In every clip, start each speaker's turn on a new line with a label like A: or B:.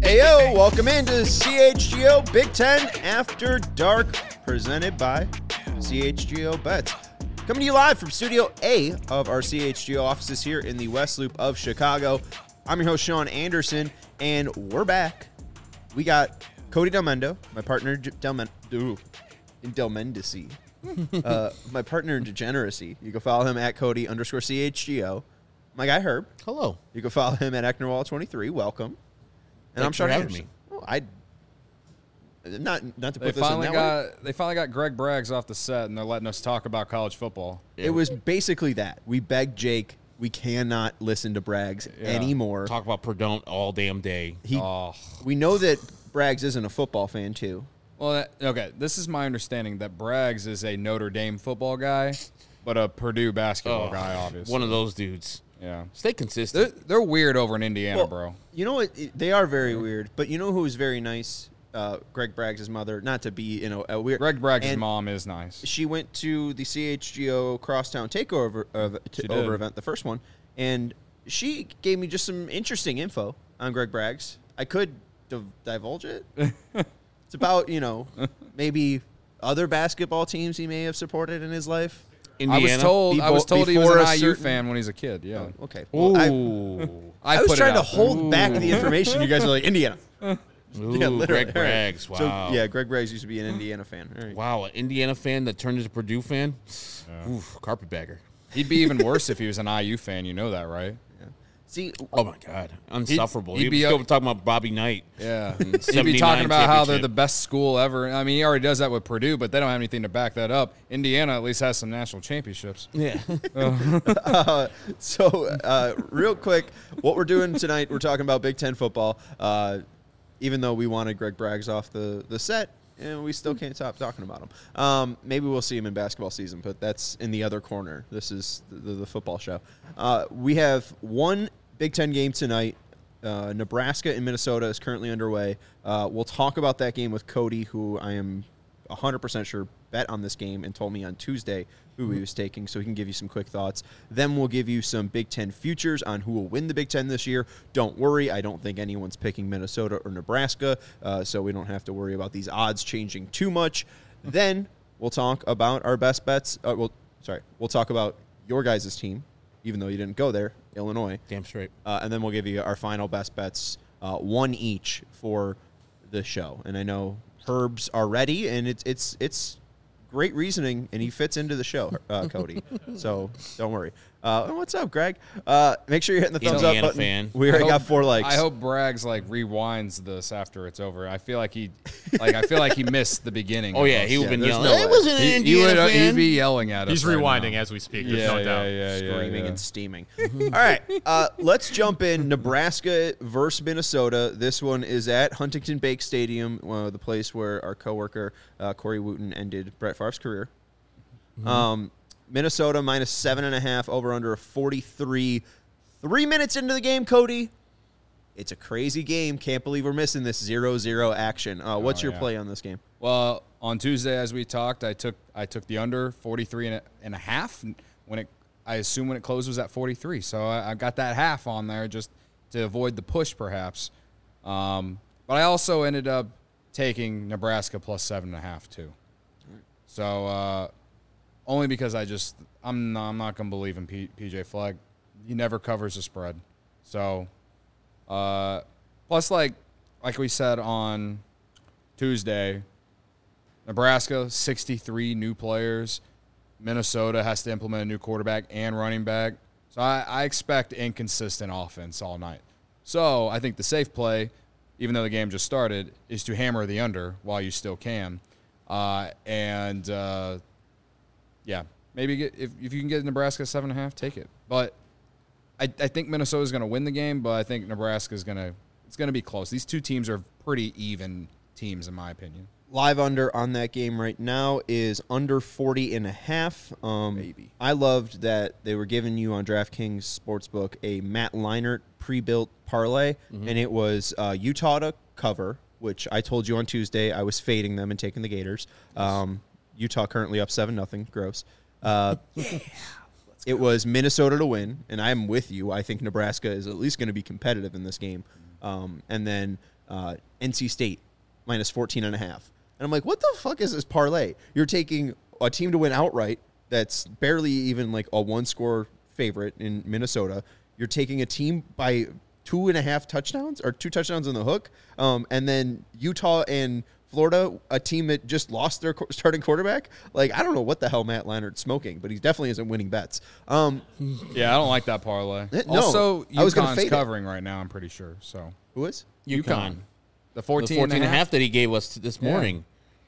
A: Heyo, welcome into CHGO Big Ten After Dark, presented by CHGO Bets. Coming to you live from Studio A of our CHGO offices here in the West Loop of Chicago. I'm your host, Sean Anderson, and we're back. We got Cody Delmendo, my partner in Delmendacy. My partner in degeneracy. You can follow him at Cody_CHGO. My guy Herb.
B: Hello.
A: You can follow him at Ecknerwall23. Welcome. And I'm Sean Anderson. Oh, not to put this in that way.
C: They finally got Greg Braggs off the set, and they're letting us talk about college football.
A: It was basically that. We begged Jake. We cannot listen to Braggs anymore.
B: Talk about Perdon't all damn day.
A: We know that Braggs isn't a football fan, too.
C: Well, okay, this is my understanding that Braggs is a Notre Dame football guy, but a Purdue basketball guy, obviously.
B: One of those dudes.
C: Yeah.
B: Stay consistent.
C: They're weird over in Indiana, bro.
A: You know what? They are very weird. But you know who is very nice? Greg Braggs' mother. Not to be, a weird.
C: Greg Braggs' mom is nice.
A: She went to the CHGO Crosstown Takeover event, the first one, and she gave me just some interesting info on Greg Braggs. I could divulge it. It's about, maybe other basketball teams he may have supported in his life.
B: Indiana.
C: I was told he was an IU fan when he was a kid. Yeah.
A: Oh, okay. Well, I was trying to hold back the information. You guys are like, Indiana.
B: Ooh, Greg Braggs. Wow.
A: So, yeah, Greg Braggs used to be an Indiana fan. All right.
B: Wow, an Indiana fan that turned into a Purdue fan? Yeah. Oof, carpetbagger.
C: He'd be even worse if he was an IU fan. You know that, right?
A: Yeah. See,
B: oh, my God. Unsufferable. He'd be still talking about Bobby Knight.
C: Yeah. He'd be talking about how they're the best school ever. I mean, he already does that with Purdue, but they don't have anything to back that up. Indiana at least has some national championships.
B: Yeah.
A: Real quick, what we're doing tonight, we're talking about Big Ten football. Even though we wanted Greg Braggs off the set, and we still can't stop talking about him. Maybe we'll see him in basketball season, but that's in the other corner. This is the football show. We have one Big Ten game tonight. Nebraska and Minnesota is currently underway. We'll talk about that game with Cody, who I am 100% sure bet on this game and told me on Tuesday who he was taking, so he can give you some quick thoughts. Then we'll give you some Big Ten futures on who will win the Big Ten this year. Don't worry, I don't think anyone's picking Minnesota or Nebraska, so we don't have to worry about these odds changing too much. Then we'll talk about our best bets. We'll talk about your guys' team, even though you didn't go there, Illinois.
B: Damn straight.
A: And then we'll give you our final best bets, one each for the show. And I know Herb's are ready, and it's great reasoning, and he fits into the show, Cody. So don't worry. What's up, Greg? Make sure you're hitting the thumbs up button.
B: Fan.
A: We already got 4 likes.
C: I hope Braggs rewinds this after it's over. I feel like he missed the beginning.
B: Oh yeah, he would have been yelling. I wasn't an Indiana fan.
C: He'd be yelling at us.
D: He's rewinding as we speak. There's no doubt.
A: Screaming and steaming. All right, let's jump in. Nebraska versus Minnesota. This one is at Huntington Bank Stadium, the place where our coworker Corey Wooten ended Brett Favre's career. Minnesota minus 7.5, over under a 43. 3 minutes into the game, Cody. It's a crazy game. Can't believe we're missing this 0-0 action. What's your play on this game?
C: Well, on Tuesday, as we talked, I took the under 43.5. I assume when it closed was at 43. So I got that half on there just to avoid the push, perhaps. But I also ended up taking Nebraska plus 7.5 too. So only because I'm not going to believe in PJ Fleck. He never covers the spread. So plus like we said on Tuesday, Nebraska 63 new players. Minnesota has to implement a new quarterback and running back. So I expect inconsistent offense all night. So I think the safe play, even though the game just started, is to hammer the under while you still can. Maybe if you can get Nebraska 7.5, take it. But I think Minnesota's going to win the game, but I think Nebraska's going to be close. These two teams are pretty even teams, in my opinion.
A: Live under on that game right now is under 40.5.
C: Maybe.
A: I loved that they were giving you on DraftKings Sportsbook a Matt Leinart pre-built parlay, and it was Utah to cover, which I told you on Tuesday I was fading them and taking the Gators. Utah currently up 7-0. Gross. It was Minnesota to win, and I'm with you. I think Nebraska is at least going to be competitive in this game. And then NC State minus 14.5. And I'm like, what the fuck is this parlay? You're taking a team to win outright that's barely even like a one-score favorite in Minnesota. You're taking a team by 2.5 touchdowns or 2 touchdowns on the hook. And then Utah and Florida, a team that just lost their starting quarterback. Like, I don't know what the hell Matt Leinart's smoking, but he definitely isn't winning bets.
C: Yeah, I don't like that parlay.
A: No,
C: Also,
A: I was gonna
C: UConn's
A: fade it.
C: covering right now, I'm pretty sure. So
A: Who is?
B: UConn.
C: The
B: The
C: 14
B: 14 and a half that he gave us this morning.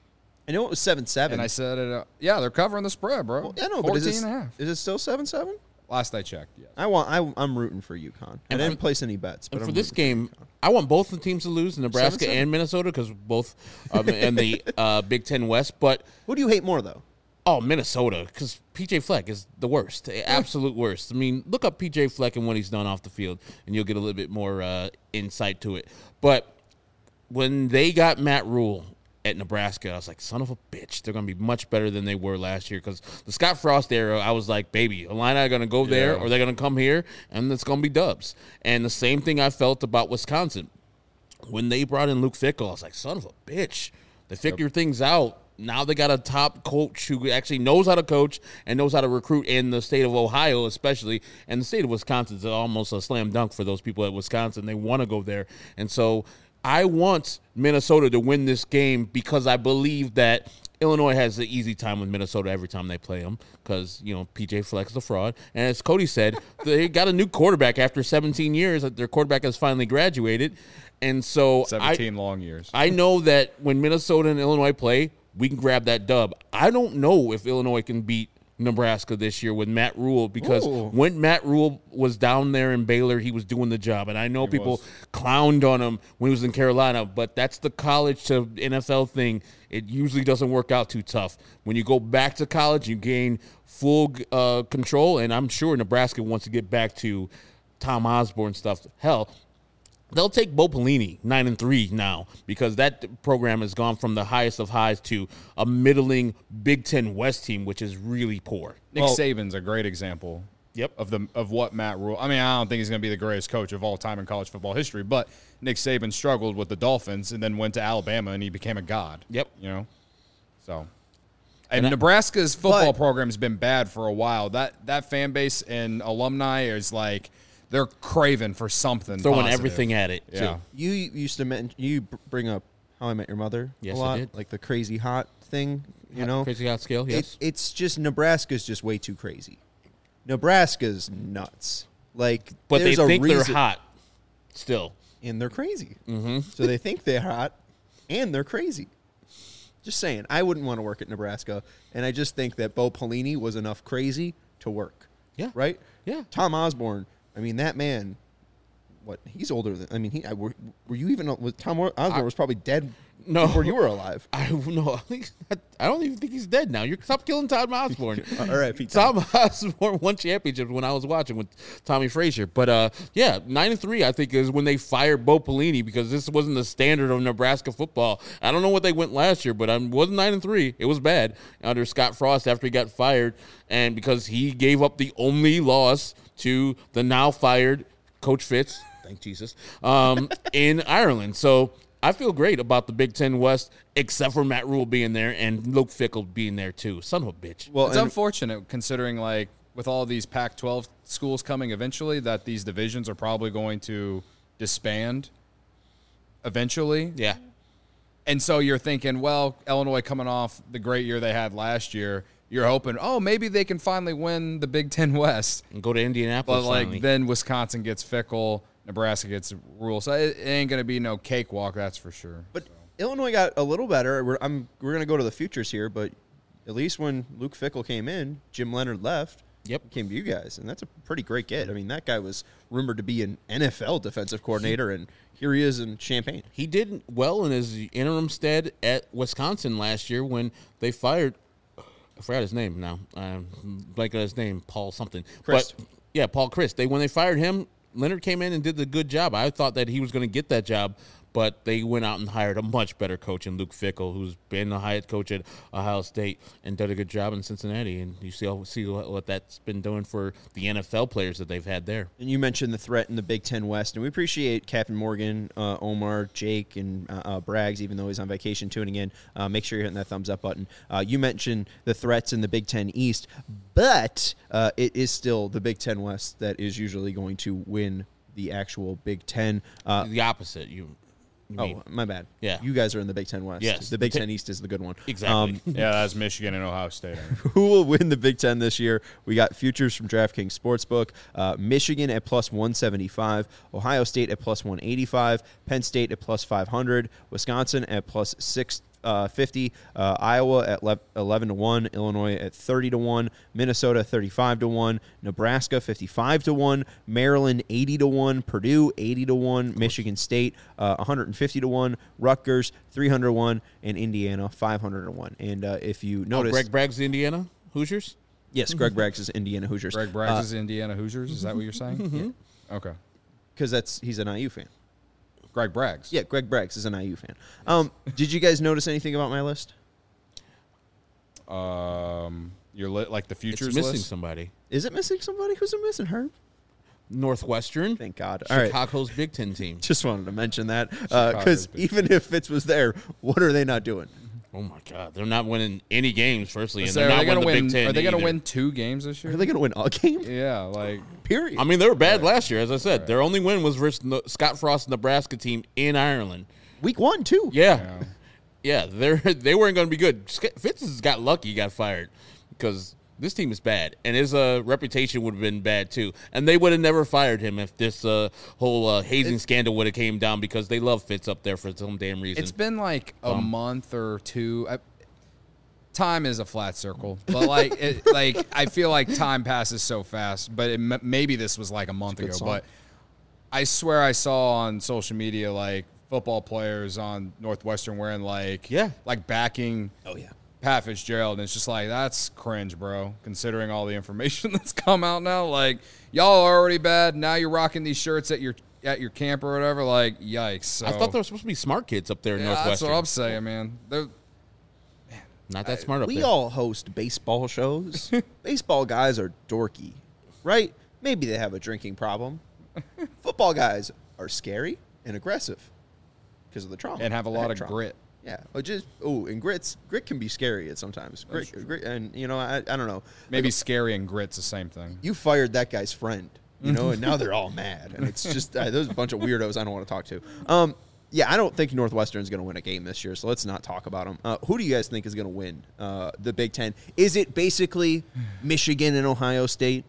A: I know it was 7-7.
C: And I said it. Yeah, they're covering the spread, bro.
A: Well, I know,
C: 14
A: but is
C: and a half.
A: it still 7-7?
C: Last I checked, yes.
A: I'm rooting for UConn. I
B: And
A: didn't
B: for-
A: place any bets, but
B: And
A: I'm
B: for this
A: rooting
B: game, I want both the teams to lose, Nebraska
A: 7-7?
B: and Minnesota, because both and the Big Ten West. But
A: Who do you hate more, though?
B: Minnesota, because PJ Fleck is the worst, the absolute worst. I mean, look up PJ Fleck and what he's done off the field, and you'll get a little bit more insight to it. But when they got Matt Rule at Nebraska, I was like, son of a bitch. They're going to be much better than they were last year, because the Scott Frost era, I was like, baby, Illini are going to go there, or they're going to come here, and it's going to be dubs. And the same thing I felt about Wisconsin. When they brought in Luke Fickell, I was like, son of a bitch. They figure things out. Now they got a top coach who actually knows how to coach and knows how to recruit in the state of Ohio, especially. And the state of Wisconsin is almost a slam dunk for those people at Wisconsin. They want to go there. And so I want Minnesota to win this game, because I believe that Illinois has an easy time with Minnesota every time they play them, because, PJ Fleck is a fraud. And as Cody said, they got a new quarterback after 17 years. Their quarterback has finally graduated. And so
C: 17 long years.
B: I know that when Minnesota and Illinois play, we can grab that dub. I don't know if Illinois can beat Nebraska this year with Matt Rule, because when Matt Rule was down there in Baylor, he was doing the job. And I know people clowned on him when he was in Carolina, but that's the college to NFL thing. It usually doesn't work out too tough. When you go back to college, you gain full control, and I'm sure Nebraska wants to get back to Tom Osborne stuff. Hell, they'll take Bo Pelini 9-3 now, because that program has gone from the highest of highs to a middling Big Ten West team, which is really poor.
C: Nick Saban's a great example.
B: Yep.
C: Of what Matt Rule. I mean, I don't think he's going to be the greatest coach of all time in college football history, but Nick Saban struggled with the Dolphins and then went to Alabama and he became a god.
B: Yep.
C: So. And Nebraska's football program has been bad for a while. That fan base and alumni is like, they're craving for something.
B: Throwing
C: positive.
B: everything at it.
C: Yeah.
B: Too.
A: You used to bring up How I Met Your Mother
B: Yes,
A: a lot,
B: I did.
A: like the crazy hot thing,
B: Crazy hot scale, yes.
A: It's just Nebraska's just way too crazy. Nebraska's nuts. Like,
B: But they
A: there's a
B: think they're
A: reason-
B: hot still.
A: and they're crazy. Mm-hmm. So they think they're hot, and they're crazy. Just saying, I wouldn't want to work at Nebraska, and I just think that Bo Pelini was enough crazy to work.
B: Yeah.
A: Right?
B: Yeah.
A: Tom Osborne, I mean, that man, he's older than, I mean, were you even, Tom Osborne was probably dead before you were alive.
B: I don't even think he's dead now. Stop killing Tom Osborne.
A: All right, Pete.
B: Tom Osborne won championships when I was watching with Tommy Frazier. But 9-3, I think, is when they fired Bo Pelini, because this wasn't the standard of Nebraska football. I don't know what they went last year, but it wasn't 9-3. It was bad under Scott Frost after he got fired, and because he gave up the only loss to the now fired Coach Fitz, thank Jesus, in Ireland. So I feel great about the Big Ten West, except for Matt Rule being there and Luke Fickell being there too. Son of a bitch.
A: Well,
C: It's unfortunate considering, like, with all these Pac-12 schools coming eventually, that these divisions are probably going to disband eventually.
B: Yeah.
C: And so you're thinking, well, Illinois coming off the great year they had last year, you're hoping, maybe they can finally win the Big Ten West.
B: And go to
C: But,
B: Indianapolis finally.
C: then Wisconsin gets Fickell, Nebraska gets Rule. So it ain't going to be no cakewalk, that's for sure.
A: But Illinois got a little better. We're going to go to the futures here, but at least when Luke Fickell came in, Jim Leonard left.
B: Yep.
A: He came to you guys, and that's a pretty great get. I mean, that guy was rumored to be an NFL defensive coordinator, and here he is in Champaign.
B: He did well in his interim stead at Wisconsin last year when they fired, I forgot his name now. Blank on his name, Paul something.
A: Christ.
B: But, yeah, Paul Christ. When they fired him, Leonard came in and did the good job. I thought that he was going to get that job, but they went out and hired a much better coach in Luke Fickell, who's been the head coach at Ohio State and did a good job in Cincinnati. And you see what that's been doing for the NFL players that they've had there.
A: And you mentioned the threat in the Big Ten West, and we appreciate Captain Morgan, Omar, Jake, and Braggs, even though he's on vacation, tuning in. Make sure you're hitting that thumbs up button. You mentioned the threats in the Big Ten East, but it is still the Big Ten West that is usually going to win the actual Big Ten.
B: The opposite. You mean.
A: My bad.
B: Yeah.
A: You guys are in the Big Ten West.
B: Yes.
A: The Big Ten East is the good one.
B: Exactly.
C: Yeah, that's Michigan and Ohio State.
A: Who will win the Big Ten this year? We got futures from DraftKings Sportsbook. Michigan at plus 175, Ohio State at plus 185, Penn State at plus 500, Wisconsin at plus 650, Iowa at 11-1, Illinois at 30-1, Minnesota 35-1, Nebraska 55-1, Maryland 80-1, Purdue 80-1, Michigan State 150-1, Rutgers 300-1, and Indiana 500-1 And if you notice,
B: Greg Bragg's the Indiana Hoosiers?
A: yes, Greg Braggs is Indiana Hoosiers.
C: Greg Braggs is Indiana Hoosiers. Is that what you're saying?
A: Mm-hmm.
C: Okay.
A: Because he's an IU fan.
C: Greg Braggs.
A: Yeah, Greg Braggs is an IU fan. Did you guys notice anything about my list?
C: You're like the futures
B: It's missing
C: list?
B: somebody.
A: Is it missing somebody? Who's it missing, Herb?
B: Northwestern.
A: Thank God. All right.
B: Chicago's Big Ten team.
A: Just wanted to mention that
C: Chicago's
A: because
C: Big
A: even if Fitz was there, what are they not doing?
B: Oh, my God. They're not winning any games, firstly, and
C: So
B: they're
C: are
B: not
C: they gonna
B: winning the Big Ten
C: Are they going to
B: either.
C: win 2 games this year?
A: Are they going to win a game?
C: Yeah, like
A: Period.
B: I mean, they were bad last year, as I said. Their only win was versus Scott Frost's Nebraska team in Ireland.
A: Week 1 too.
B: Yeah. They weren't going to be good. Fitz has got lucky he got fired because this team is bad, and his reputation would have been bad too. And they would have never fired him if this whole hazing scandal would have came down because they love Fitz up there for some damn reason.
C: it's been like a month or two. Time is a flat circle, but like I feel like time passes so fast. But maybe this was like a month ago.
A: song.
C: But I swear I saw on social media like football players on Northwestern wearing like backing.
A: Oh yeah.
C: Pat Fitzgerald, and it's just like, that's cringe, bro, considering all the information that's come out now. Like, y'all are already bad. Now you're rocking these shirts at your camp or whatever. Like, yikes. So,
B: I thought there were supposed to be smart kids up there in
C: that's
B: Northwestern.
C: what I'm saying, man.
B: Not that smart up
A: We
B: there.
A: all host baseball shows. Baseball guys are dorky, right? Maybe they have a drinking problem. Football guys are scary and aggressive because of the trauma.
C: And have a lot of
A: trauma.
C: grit.
A: Yeah, and grit can be scary at sometimes. Grit, and I don't know.
C: Maybe scary and grit's the same thing.
A: You fired that guy's friend, and now they're all mad, and it's just there's a bunch of weirdos I don't want to talk to. Yeah, I don't think Northwestern's going to win a game this year, so let's not talk about them. Who do you guys think is going to win the Big Ten? Is it basically Michigan and Ohio State,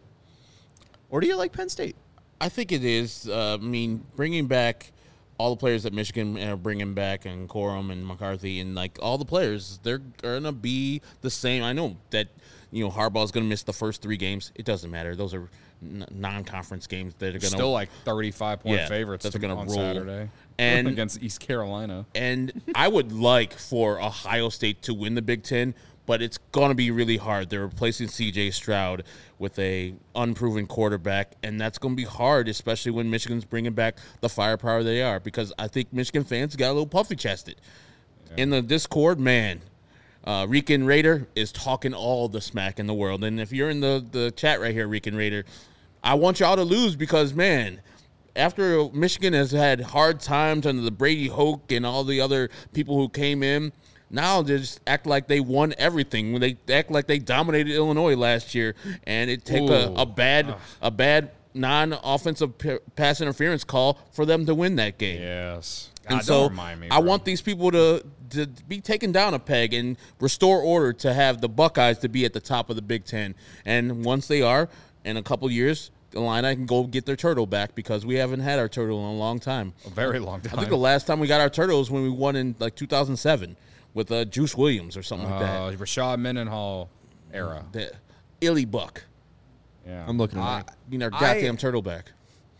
A: or do you like Penn State?
B: I think it is. I mean, bringing back all the players that Michigan are bringing back, and Corum and McCarthy, and like all the players, they're going to be the same. I know that Harbaugh's going to miss the first 3 games. It doesn't matter; those are non-conference games. They're going to
C: Still like 35-point favorites
B: that they're going
C: on
B: to roll
C: Saturday
B: and
C: against East Carolina.
B: And I would like for Ohio State to win the Big Ten, but it's going to be really hard. They're replacing C.J. Stroud with a unproven quarterback, and that's going to be hard, especially when Michigan's bringing back the firepower they are, because I think Michigan fans got a little puffy-chested. Yeah. In the Discord, man, Rican Raider is talking all the smack in the world. And if you're in the chat right here, Rican Raider, I want y'all to lose because, man, after Michigan has had hard times under the Brady Hoke and all the other people who came in, now they just act like they won everything. When they act like they dominated Illinois last year, and it take a bad non-offensive pass interference call for them to win that game.
C: Yes.
B: And
C: God,
B: so
C: don't remind me,
B: I
C: bro.
B: want these people to be taken down a peg and restore order to have the Buckeyes to be at the top of the Big Ten. And once they are, in a couple years, the Illini can go get their turtle back because we haven't had our turtle in a long time.
C: A very long time.
B: I think the last time we got our turtle was when we won in like 2007 with Juice Williams or something like that.
C: Rashad Mendenhall era.
B: The Illy Buck.
C: Yeah.
A: I'm looking at
B: Our goddamn turtle back.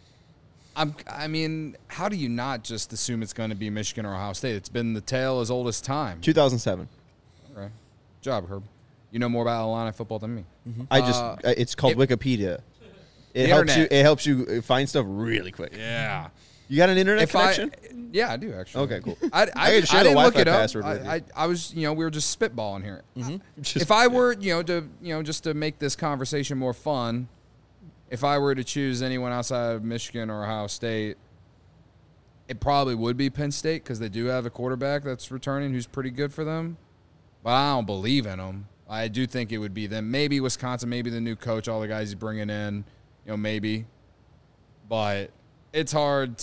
C: I mean, how do you not just assume it's going to be Michigan or Ohio State? It's been the tale as old as time.
A: 2007.
C: Okay. Good job, Herb. You know more about Illini football than me.
A: Mm-hmm. It's called Wikipedia. It
C: The
A: helps you.
C: internet.
A: It helps you find stuff really quick.
C: Yeah.
A: You got an internet connection?
C: Yeah, I do actually.
A: Okay, cool.
C: I
A: gotta share the
C: didn't look
A: Wi-Fi
C: it up.
A: password with you.
C: I was, we were just spitballing here.
A: Just-
C: If I were, just to make this conversation more fun, if I were to choose anyone outside of Michigan or Ohio State, it probably would be Penn State because they do have a quarterback that's returning who's pretty good for them. But I don't believe in them. I do think it would be them. Maybe Wisconsin, maybe the new coach, all the guys he's bringing in, maybe. But it's hard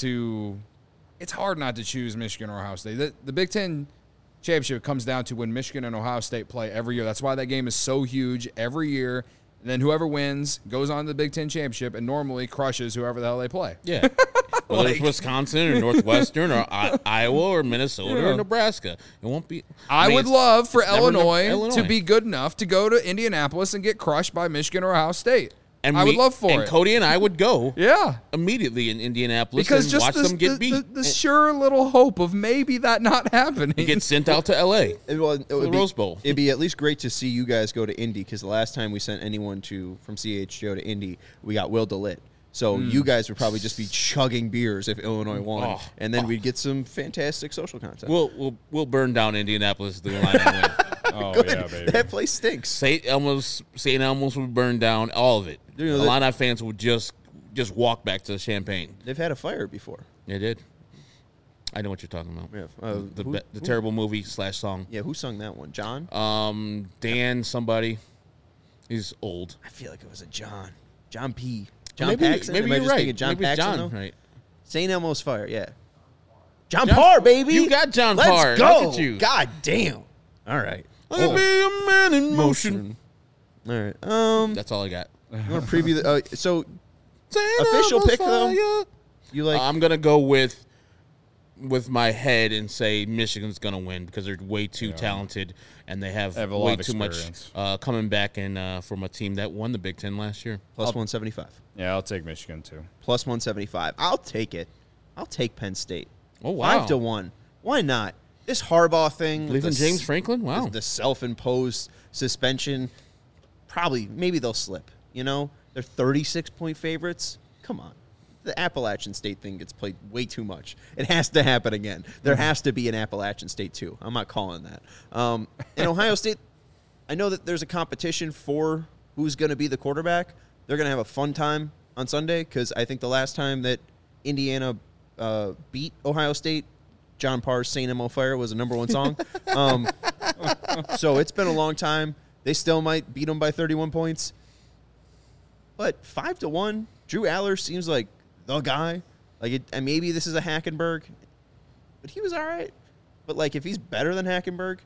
C: not to choose Michigan or Ohio State. The Big Ten championship comes down to when Michigan and Ohio State play every year. That's why that game is so huge every year. And then whoever wins goes on to the Big Ten championship and normally crushes whoever the hell they play.
B: Yeah. Whether it's Wisconsin or Northwestern or Iowa or Minnesota or Nebraska. It won't be.
C: I would love for Illinois
B: Illinois
C: to be good enough to go to Indianapolis and get crushed by Michigan or Ohio State.
B: And
C: I would love for
B: and
C: it.
B: Cody and I would go
C: Yeah.
B: immediately in Indianapolis
C: Because
B: and
C: just
B: watch them get beat.
C: the sure little hope of maybe that not happening.
B: and get sent out to L.A.
A: It would
B: the
A: be,
B: Rose Bowl.
A: It'd be at least great to see you guys go to Indy because the last time we sent anyone from CHGO to Indy, we got Will DeLitt. So you guys would probably just be chugging beers if Illinois won, and then we'd get some fantastic social content.
B: We'll burn down Indianapolis the line and win.
C: Oh,
A: Good.
C: yeah, baby.
A: That place stinks.
B: St. Elmo's would burn down, all of it.
A: You know,
B: the Illini fans would just walk back to Champaign.
A: They've had a fire before.
B: They did. I know what you're talking about.
A: Yeah.
B: The terrible movie / song.
A: Yeah, who sung that one? John?
B: Dan somebody. He's old.
A: I feel like it was a John. John P. John
B: maybe,
A: Paxson?
B: Maybe
A: Am I
B: you're
A: just
B: right.
A: thinking John
B: maybe it's
A: Paxson,
B: John,
A: though?
B: right.
A: St. Elmo's Fire, yeah. John Parr, baby.
B: You got John
A: Let's
B: Parr.
A: go.
B: Look at you.
A: God damn. All right.
B: Let me be a man in motion.
A: All right.
B: That's all I got.
A: You want to preview the so
B: St.
A: official
B: Elmo's
A: pick though?
B: fire.
A: You like
B: I'm gonna go with my head and say Michigan's gonna win because they're way too talented and they have
C: They have a lot
B: way
C: of
B: too much
C: experience.
B: coming back and from a team that won the Big Ten last year.
A: plus 175.
C: Yeah, I'll take Michigan too.
A: Plus 175. I'll take it. I'll take Penn State.
B: Oh wow!
A: 5-1. Why not? This Harbaugh thing.
B: Believe in James Franklin? Wow.
A: The self-imposed suspension. Maybe they'll slip. They're 36-point favorites. Come on. The Appalachian State thing gets played way too much. It has to happen again. There has to be an Appalachian State too. I'm not calling that. In Ohio State, I know that there's a competition for who's going to be the quarterback. They're going to have a fun time on Sunday because I think the last time that Indiana beat Ohio State, John Parr's St. Elmo Fire was a #1 song. So it's been a long time. They still might beat them by 31 points. But 5-1, Drew Aller seems like the guy. And maybe this is a Hackenberg, but he was all right. But if he's better than Hackenberg,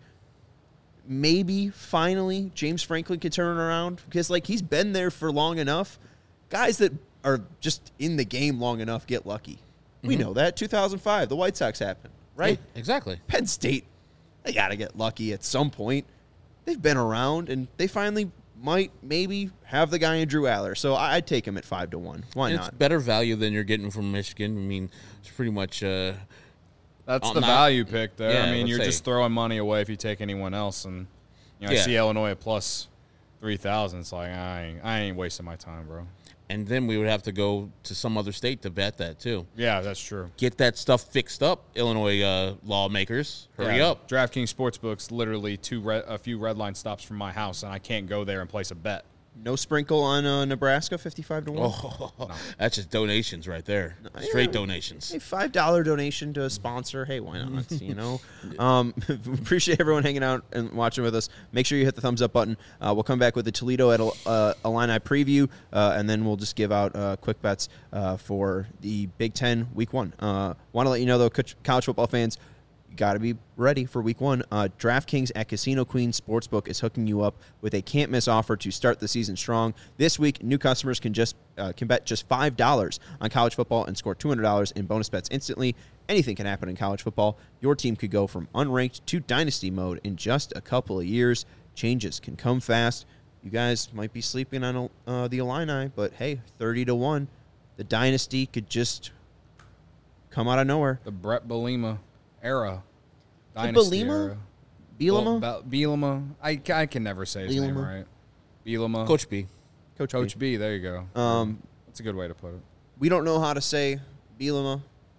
A: maybe finally James Franklin can turn it around because he's been there for long enough. Guys that are just in the game long enough get lucky. We know that 2005, the White Sox happened, right?
B: Yeah, exactly.
A: Penn State, they got to get lucky at some point. They've been around, and they finally might maybe have the guy in Drew Aller. So I'd take him at 5-1. Why
B: And
A: not?
B: it's better value than you're getting from Michigan. I mean, it's pretty much.
C: That's
B: I'm
C: the
B: not-
C: value pick there.
B: Yeah,
C: I mean,
B: let's
C: you're
B: say.
C: just throwing money away if you take anyone else. And I
B: Yeah.
C: see Illinois at plus 3,000. It's like I ain't wasting my time, bro.
B: And then we would have to go to some other state to bet that too.
C: Yeah, that's true.
B: Get that stuff fixed up, Illinois lawmakers. Hurry
C: Yeah,
B: up.
C: DraftKings Sportsbook's literally a few red line stops from my house, and I can't go there and place a bet.
A: No sprinkle on Nebraska, 55-1.
B: Oh, that's just donations right there. Straight donations.
A: Hey, $5 donation to a sponsor. Hey, why not? Appreciate everyone hanging out and watching with us. Make sure you hit the thumbs up button. We'll come back with the Toledo at Illini preview, and then we'll just give out quick bets for the Big Ten Week 1. Want to let you know, though, college football fans, you got to be ready for Week 1. DraftKings at Casino Queen Sportsbook is hooking you up with a can't-miss offer to start the season strong. This week, new customers can bet just $5 on college football and score $200 in bonus bets instantly. Anything can happen in college football. Your team could go from unranked to dynasty mode in just a couple of years. Changes can come fast. You guys might be sleeping on the Illini, but hey, 30-1. The dynasty could just come out of nowhere.
C: The Brett Bielema era.
A: The
C: Dynasty
A: Bielema?
C: era.
A: Bielema?
C: Well, Bielema. I can never say his name
A: Bielema.
C: right. Bielema.
B: Coach B.
C: Coach B. There you go. That's a good way to put it.
A: We don't know how to say Bielema.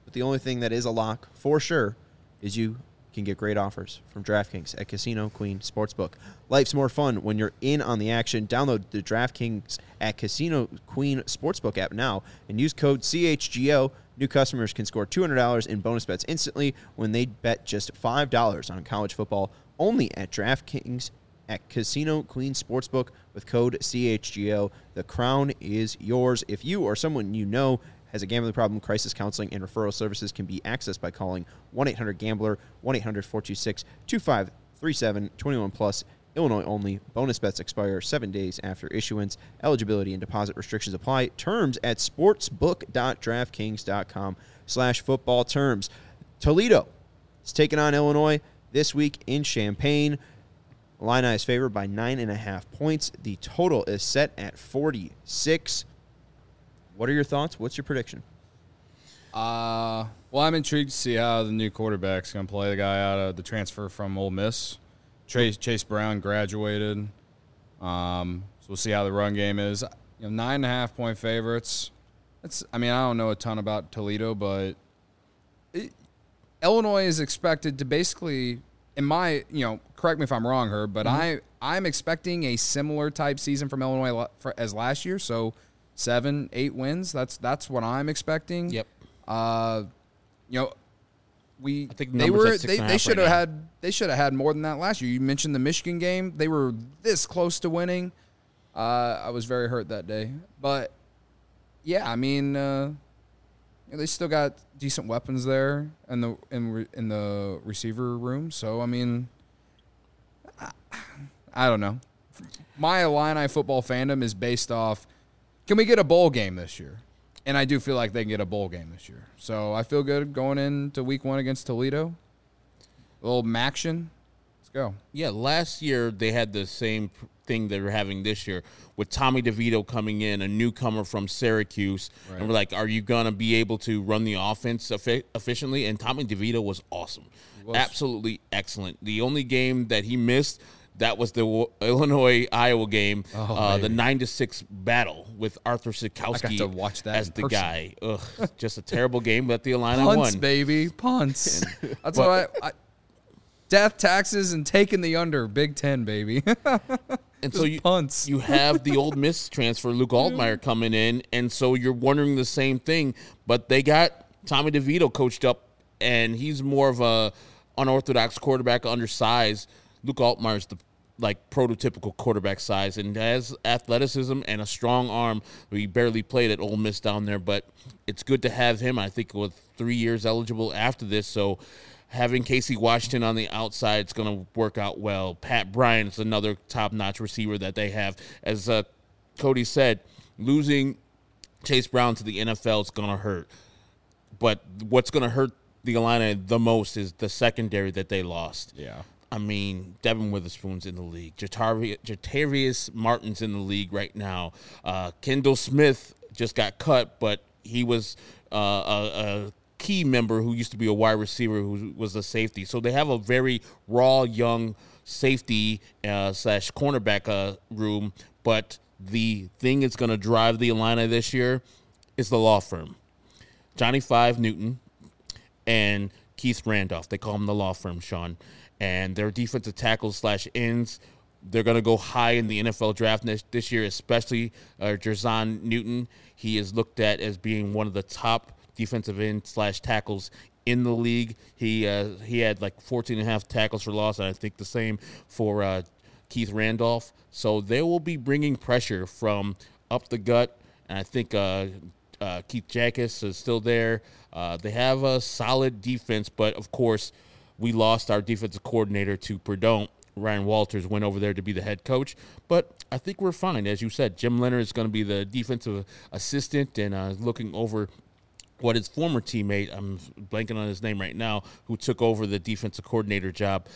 A: But the only thing that is a lock for sure is you can get great offers from DraftKings at Casino Queen Sportsbook. Life's more fun when you're in on the action. Download the DraftKings at Casino Queen Sportsbook app now and use code CHGO. New customers can score $200 in bonus bets instantly when they bet just $5 on college football only at DraftKings at Casino Queen Sportsbook with code CHGO. The crown is yours. If you or someone you know has a gambling problem, crisis counseling and referral services can be accessed by calling 1-800-GAMBLER, 1-800-426-2537, 21 plus, Illinois only. Bonus bets expire 7 days after issuance. Eligibility and deposit restrictions apply. Terms at sportsbook.draftkings.com/football terms. Toledo is taking on Illinois this week in Champaign. Illini is favored by 9.5 points. The total is set at 46. What are your thoughts? What's your prediction?
C: Well, I'm intrigued to see how the new quarterback's going to play. The guy out of the transfer from Ole Miss, Chase Brown, graduated. So we'll see how the run game is. 9.5 point favorites. I don't know a ton about Toledo, but Illinois is expected to basically, correct me if I'm wrong, Herb, but I'm expecting a similar type season from Illinois as last year. So 7-8 wins. That's what I'm expecting.
B: Yep.
C: I think
B: they
C: should have had more than that last year. You mentioned the Michigan game; they were this close to winning. I was very hurt that day, but yeah, they still got decent weapons there in the receiver room. So I don't know. My Illini football fandom is based off, can we get a bowl game this year? And I do feel like they can get a bowl game this year. So I feel good going into week 1 against Toledo. A little Maction. Let's go.
B: Yeah, last year they had the same thing they're having this year with Tommy DeVito coming in, a newcomer from Syracuse. Right. And we're like, are you going to be able to run the offense efficiently? And Tommy DeVito was awesome. Absolutely excellent. The only game that he missed, that was the Illinois-Iowa game, the 9-6 battle with Arthur Sikowski
C: I got to watch that
B: as the guy. Ugh, just a terrible game, but the Illini
C: won.
B: Punts,
C: baby, punts. That's what I death, taxes, and taking the under. Big Ten, baby.
B: And so you have the Ole Miss transfer, Luke Altmaier, coming in, and so you're wondering the same thing. But they got Tommy DeVito coached up, and he's more of a unorthodox quarterback, undersized. Luke Altmaier's the prototypical quarterback size and has athleticism and a strong arm. He barely played at Ole Miss down there, but it's good to have him. I think with 3 years eligible after this, so having Casey Washington on the outside is going to work out well. Pat Bryant is another top-notch receiver that they have. As Cody said, losing Chase Brown to the NFL is going to hurt. But what's going to hurt the Illini the most is the secondary that they lost.
C: Yeah.
B: Devin Witherspoon's in the league. Jatavius Martin's in the league right now. Kendall Smith just got cut, but he was a key member who used to be a wide receiver who was a safety. So they have a very raw, young safety / cornerback room. But the thing that's going to drive the Illini this year is the law firm. Johnny Five Newton and Keith Randolph. They call him the law firm, Sean. And their defensive tackles / ends, they're going to go high in the NFL draft this year, especially Jerzon Newton. He is looked at as being one of the top defensive end / tackles in the league. He had 14.5 tackles for loss, and I think the same for Keith Randolph. So they will be bringing pressure from up the gut, and I think Keith Jackus is still there. They have a solid defense, but, of course, we lost our defensive coordinator to Purdue. Ryan Walters went over there to be the head coach. But I think we're fine. As you said, Jim Leonard is going to be the defensive assistant and looking over what his former teammate, I'm blanking on his name right now, who took over the defensive coordinator job.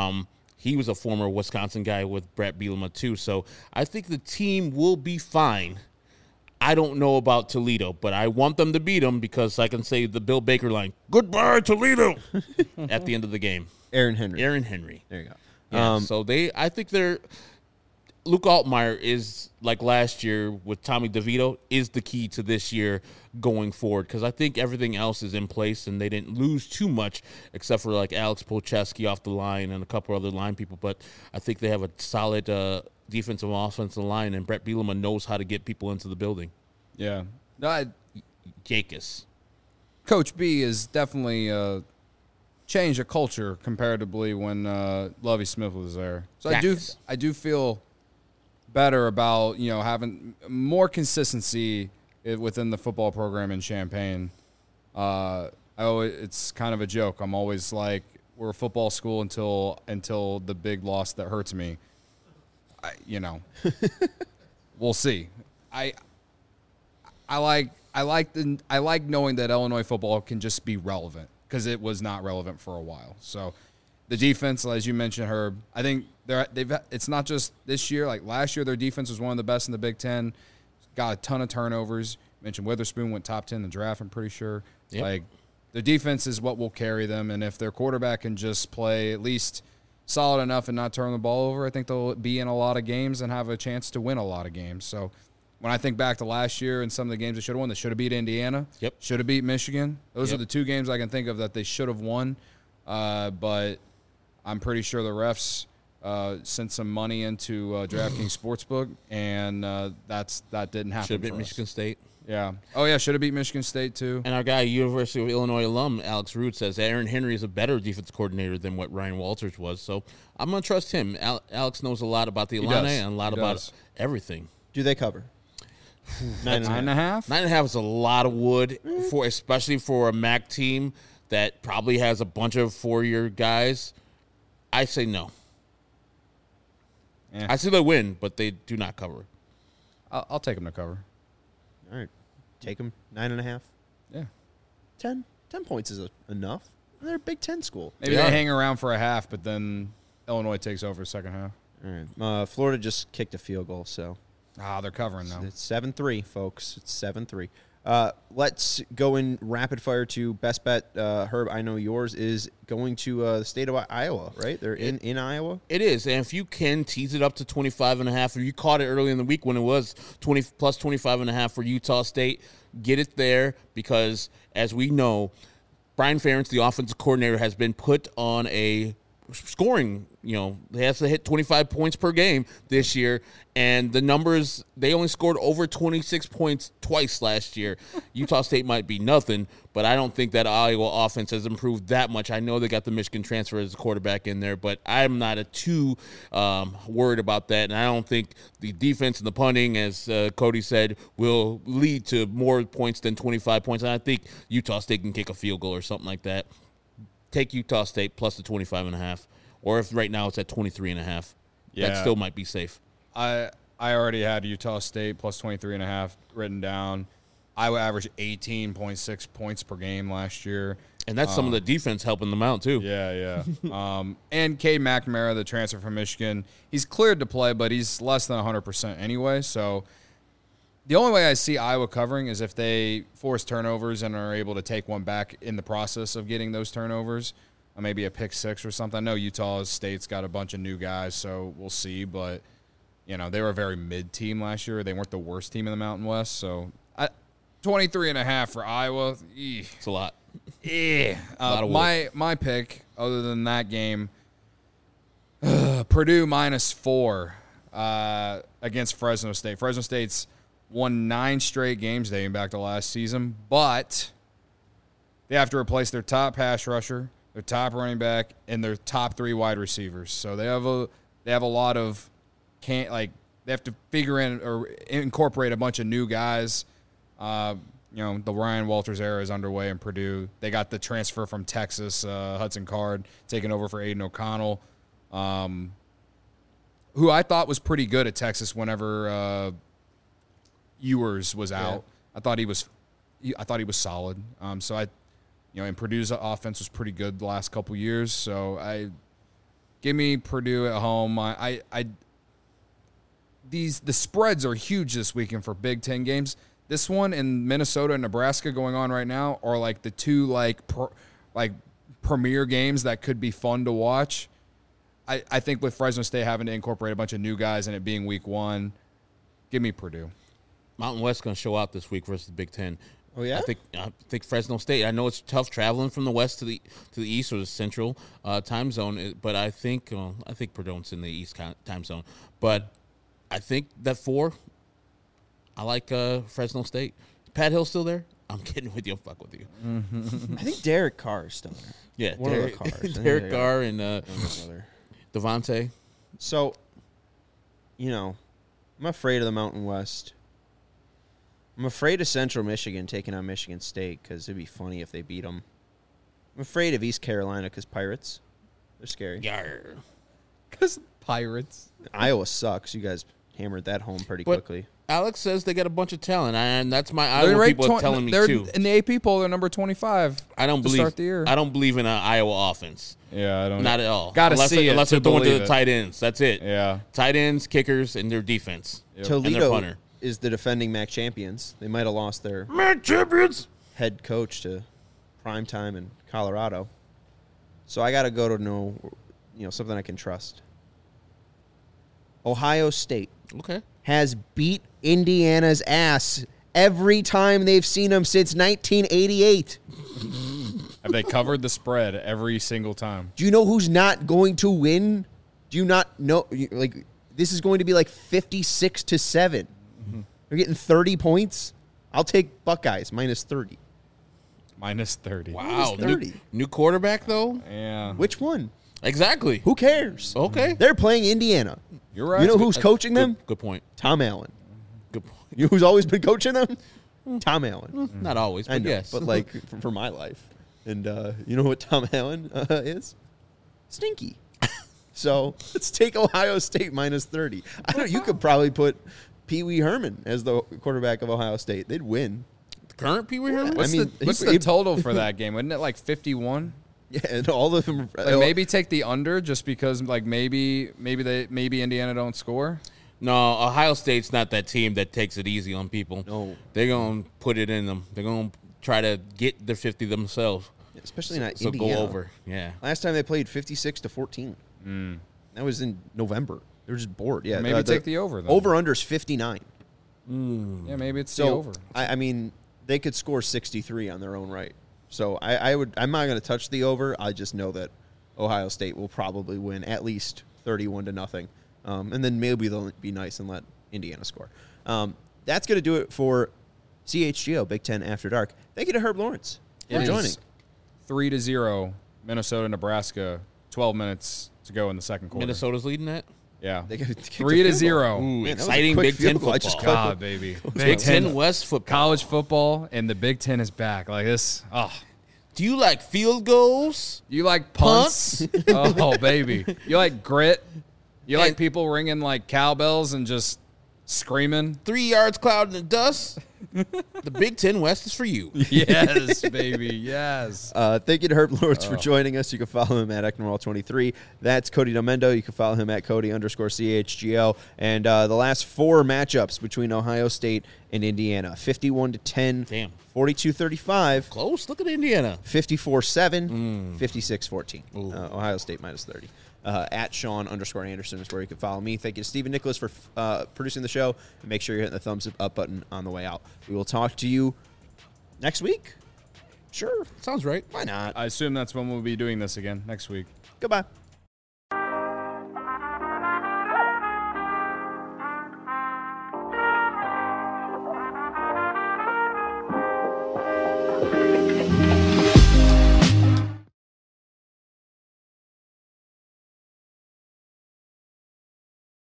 B: He was a former Wisconsin guy with Brett Bielema too. So I think the team will be fine. I don't know about Toledo, but I want them to beat them because I can say the Bill Baker line, "Goodbye, Toledo," at the end of the game.
A: Aaron Henry.
B: There you go.
A: Yeah,
B: so I think Luke Altmaier is, like last year with Tommy DeVito, is the key to this year going forward, because I think everything else is in place and they didn't lose too much except for like Alex Polcheski off the line and a couple other line people. But I think they have a solid defensive and offensive line, and Brett Bielema knows how to get people into the building.
C: Yeah.
B: Jacobs.
C: Coach B is definitely changed the culture comparatively when Lovie Smith was there. So I do feel better about having more consistency within the football program in Champaign. It's kind of a joke. I'm always like, we're a football school until the big loss that hurts me. We'll see. I like knowing that Illinois football can just be relevant, because it was not relevant for a while. So the defense, as you mentioned, Herb, I think it's not just this year. Like last year, their defense was one of the best in the Big Ten. Got a ton of turnovers. You mentioned Witherspoon went top 10 in the draft, I'm pretty sure. Yep. Like the defense is what will carry them, and if their quarterback can just play at least solid enough and not turn the ball over, I think they'll be in a lot of games and have a chance to win a lot of games. So when I think back to last year and some of the games they should have won, they should have beat Indiana.
B: Yep.
C: Should have beat Michigan. Those are the two games I can think of that they should have won. But I'm pretty sure the refs sent some money into DraftKings Sportsbook, and that didn't happen.
B: Should have beat Michigan State.
C: Yeah. Oh, yeah, should have beat Michigan State, too.
B: And our guy, University of Illinois alum, Alex Root, says Aaron Henry is a better defensive coordinator than what Ryan Walters was. So I'm going to trust him. Alex knows a lot about the Illini and a lot about everything.
A: Do they cover?
C: 9.5?
B: 9.5 is a lot of wood, especially for a MAC team that probably has a bunch of four-year guys. I say no.
C: Yeah.
B: I say they win, but they do not cover.
C: I'll take them to cover.
A: All right. Take them 9.5.
C: Yeah.
A: 10 points is enough. They're a Big Ten school.
C: Maybe they hang around for a half, but then Illinois takes over second half.
A: All right. Florida just kicked a field goal, so.
C: They're covering now.
A: It's 7-3, folks. It's 7-3. Let's go in rapid fire to best bet. Herb, I know yours is going to the state of Iowa, right? They're in Iowa?
B: It is. And if you can tease it up to 25.5, or you caught it early in the week when it was 20 plus 25.5 for Utah State, get it there, because as we know, Brian Ferentz, the offensive coordinator, has been put on a scoring, he has to hit 25 points per game this year, and the numbers, they only scored over 26 points twice last year. Utah State might be nothing, but I don't think that Iowa offense has improved that much. I know they got the Michigan transfer as a quarterback in there, but I'm not too worried about that, and I don't think the defense and the punting, as Cody said, will lead to more points than 25 points, and I think Utah State can kick a field goal or something like that. Take Utah State plus the 25.5, or if right now it's at 23.5, that still might be safe.
C: I already had Utah State plus 23.5 written down. Iowa averaged 18.6 points per game last year.
B: And that's some of the defense helping them out, too.
C: Yeah. And Cade McNamara, the transfer from Michigan, he's cleared to play, but he's less than 100% anyway. So the only way I see Iowa covering is if they force turnovers and are able to take one back in the process of getting those turnovers, maybe a pick six or something. I know Utah State's got a bunch of new guys, so we'll see. But, they were a very mid team last year. They weren't the worst team in the Mountain West. So 23.5 for Iowa.
B: It's a lot.
C: Yeah. My pick, other than that game, Purdue -4 against Fresno State. Fresno State's won 9 straight games dating back to last season, but they have to replace their top pass rusher, their top running back, and their top 3 wide receivers. So they have a lot of they have to figure in or incorporate a bunch of new guys. The Ryan Walters era is underway in Purdue. They got the transfer from Texas, Hudson Card, taking over for Aiden O'Connell, who I thought was pretty good at Texas whenever Ewers was out. I thought he was solid. And Purdue's offense was pretty good the last couple years. So give me Purdue at home. The spreads are huge this weekend for Big Ten games. This one in Minnesota and Nebraska going on right now are like the two premier games that could be fun to watch. I think with Fresno State having to incorporate a bunch of new guys and it being week 1, give me Purdue.
B: Mountain West going to show out this week versus the Big Ten.
A: Oh, yeah?
B: I think Fresno State. I know it's tough traveling from the west to the east or the central time zone, but I think Purdue's in the east time zone. But I think that 4. I like Fresno State. Pat Hill still there? I'm kidding with you. I'll fuck with you.
A: I think Derek Carr is still there.
B: Yeah,
A: One of the Carrs.
B: Derek Carr and Devontae.
A: So, I'm afraid of the Mountain West. I'm afraid of Central Michigan taking on Michigan State because it'd be funny if they beat them. I'm afraid of East Carolina because Pirates. They're scary.
B: Yarr.
C: Because Pirates.
A: Iowa sucks. You guys hammered that home pretty quickly.
B: Alex says they got a bunch of talent, and that's my Iowa people are telling me too.
C: In the AP poll, they're number 25.
B: I don't
C: start the year.
B: I don't believe in an Iowa offense.
C: Yeah, I don't.
B: Not at all.
C: Got to see it
B: unless they're throwing to the tight ends. That's it.
C: Yeah,
B: tight ends, kickers, and their defense.
C: Yep.
A: Toledo
B: and their punter.
A: is the defending MAC champions. They might have lost their
B: MAC champions
A: head coach to primetime in Colorado. So I got to go to something I can trust. Ohio State has beat Indiana's ass every time they've seen them since 1988.
C: Have they covered the spread every single time?
A: Do you know who's not going to win? Do you not know? This is going to be like 56-7.
C: Mm-hmm.
A: They're getting 30 points. I'll take Buckeyes minus 30.
C: Minus 30.
B: Wow.
A: Minus 30.
B: New quarterback, though?
C: Yeah.
A: Which one?
B: Exactly.
A: Who cares?
B: Okay.
A: They're playing Indiana.
C: You're right.
A: You know who's coaching them?
B: Good point.
A: Tom Allen.
B: Good point.
A: You know who's always been coaching them? Tom Allen.
B: Not always, but
A: I know,
B: yes.
A: but like for my life. And you know what Tom Allen is? Stinky. So let's take Ohio State minus 30. You could probably put Pee Wee Herman as the quarterback of Ohio State. They'd win.
B: The current Pee Wee Herman?
C: What's the total for that game? Wasn't it like 51?
A: Yeah, and all of them.
C: Maybe take the under just because maybe Indiana don't score.
B: No, Ohio State's not that team that takes it easy on people.
A: No.
B: They're going to put it in them. They're going to try to get their 50 themselves.
A: Especially not
B: so
A: Indiana.
B: go over. Yeah.
A: Last time they played 56-14. That was in November. They were just bored. Yeah.
C: Maybe take the over then.
A: Over under is 59.
C: Yeah, maybe it's the over.
A: I mean, they could score 63 on their own right. So I'm not going to touch the over. I just know that Ohio State will probably win at least 31-0. And then maybe they'll be nice and let Indiana score. That's going to do it for CHGO Big Ten After Dark. Thank you to Herb Lawrence for joining.
C: 3-0, Minnesota, Nebraska. 12 minutes to go in the second quarter.
B: Minnesota's leading that?
C: Yeah.
A: 3-0.
B: Ooh, exciting Big Ten football.
C: God, baby.
B: Big Ten West football.
C: College football, and the Big Ten is back. Like this. Oh.
B: Do you like field goals?
C: You like punts? Oh, baby. You like grit? You like people ringing like cowbells and just screaming?
B: 3 yards cloud in the dust? The Big Ten West is for you.
C: Yes, baby. Yes.
A: Thank you to Herb Lawrence for joining us. You can follow him at Ecknerall23. That's Cody Domendo. You can follow him at Cody_CHGO. And the last 4 matchups between Ohio State and Indiana. 51-10.
B: Damn.
A: 42-35.
B: Close. Look at Indiana.
A: 54-7. 56-14. Ohio State minus 30. At Sean_Anderson is where you can follow me. Thank you to Stephen Nicholas for producing the show. And make sure you're hitting the thumbs up button on the way out. We will talk to you next week. Sure.
B: Sounds right.
A: Why not?
C: I assume that's when we'll be doing this again next week.
A: Goodbye.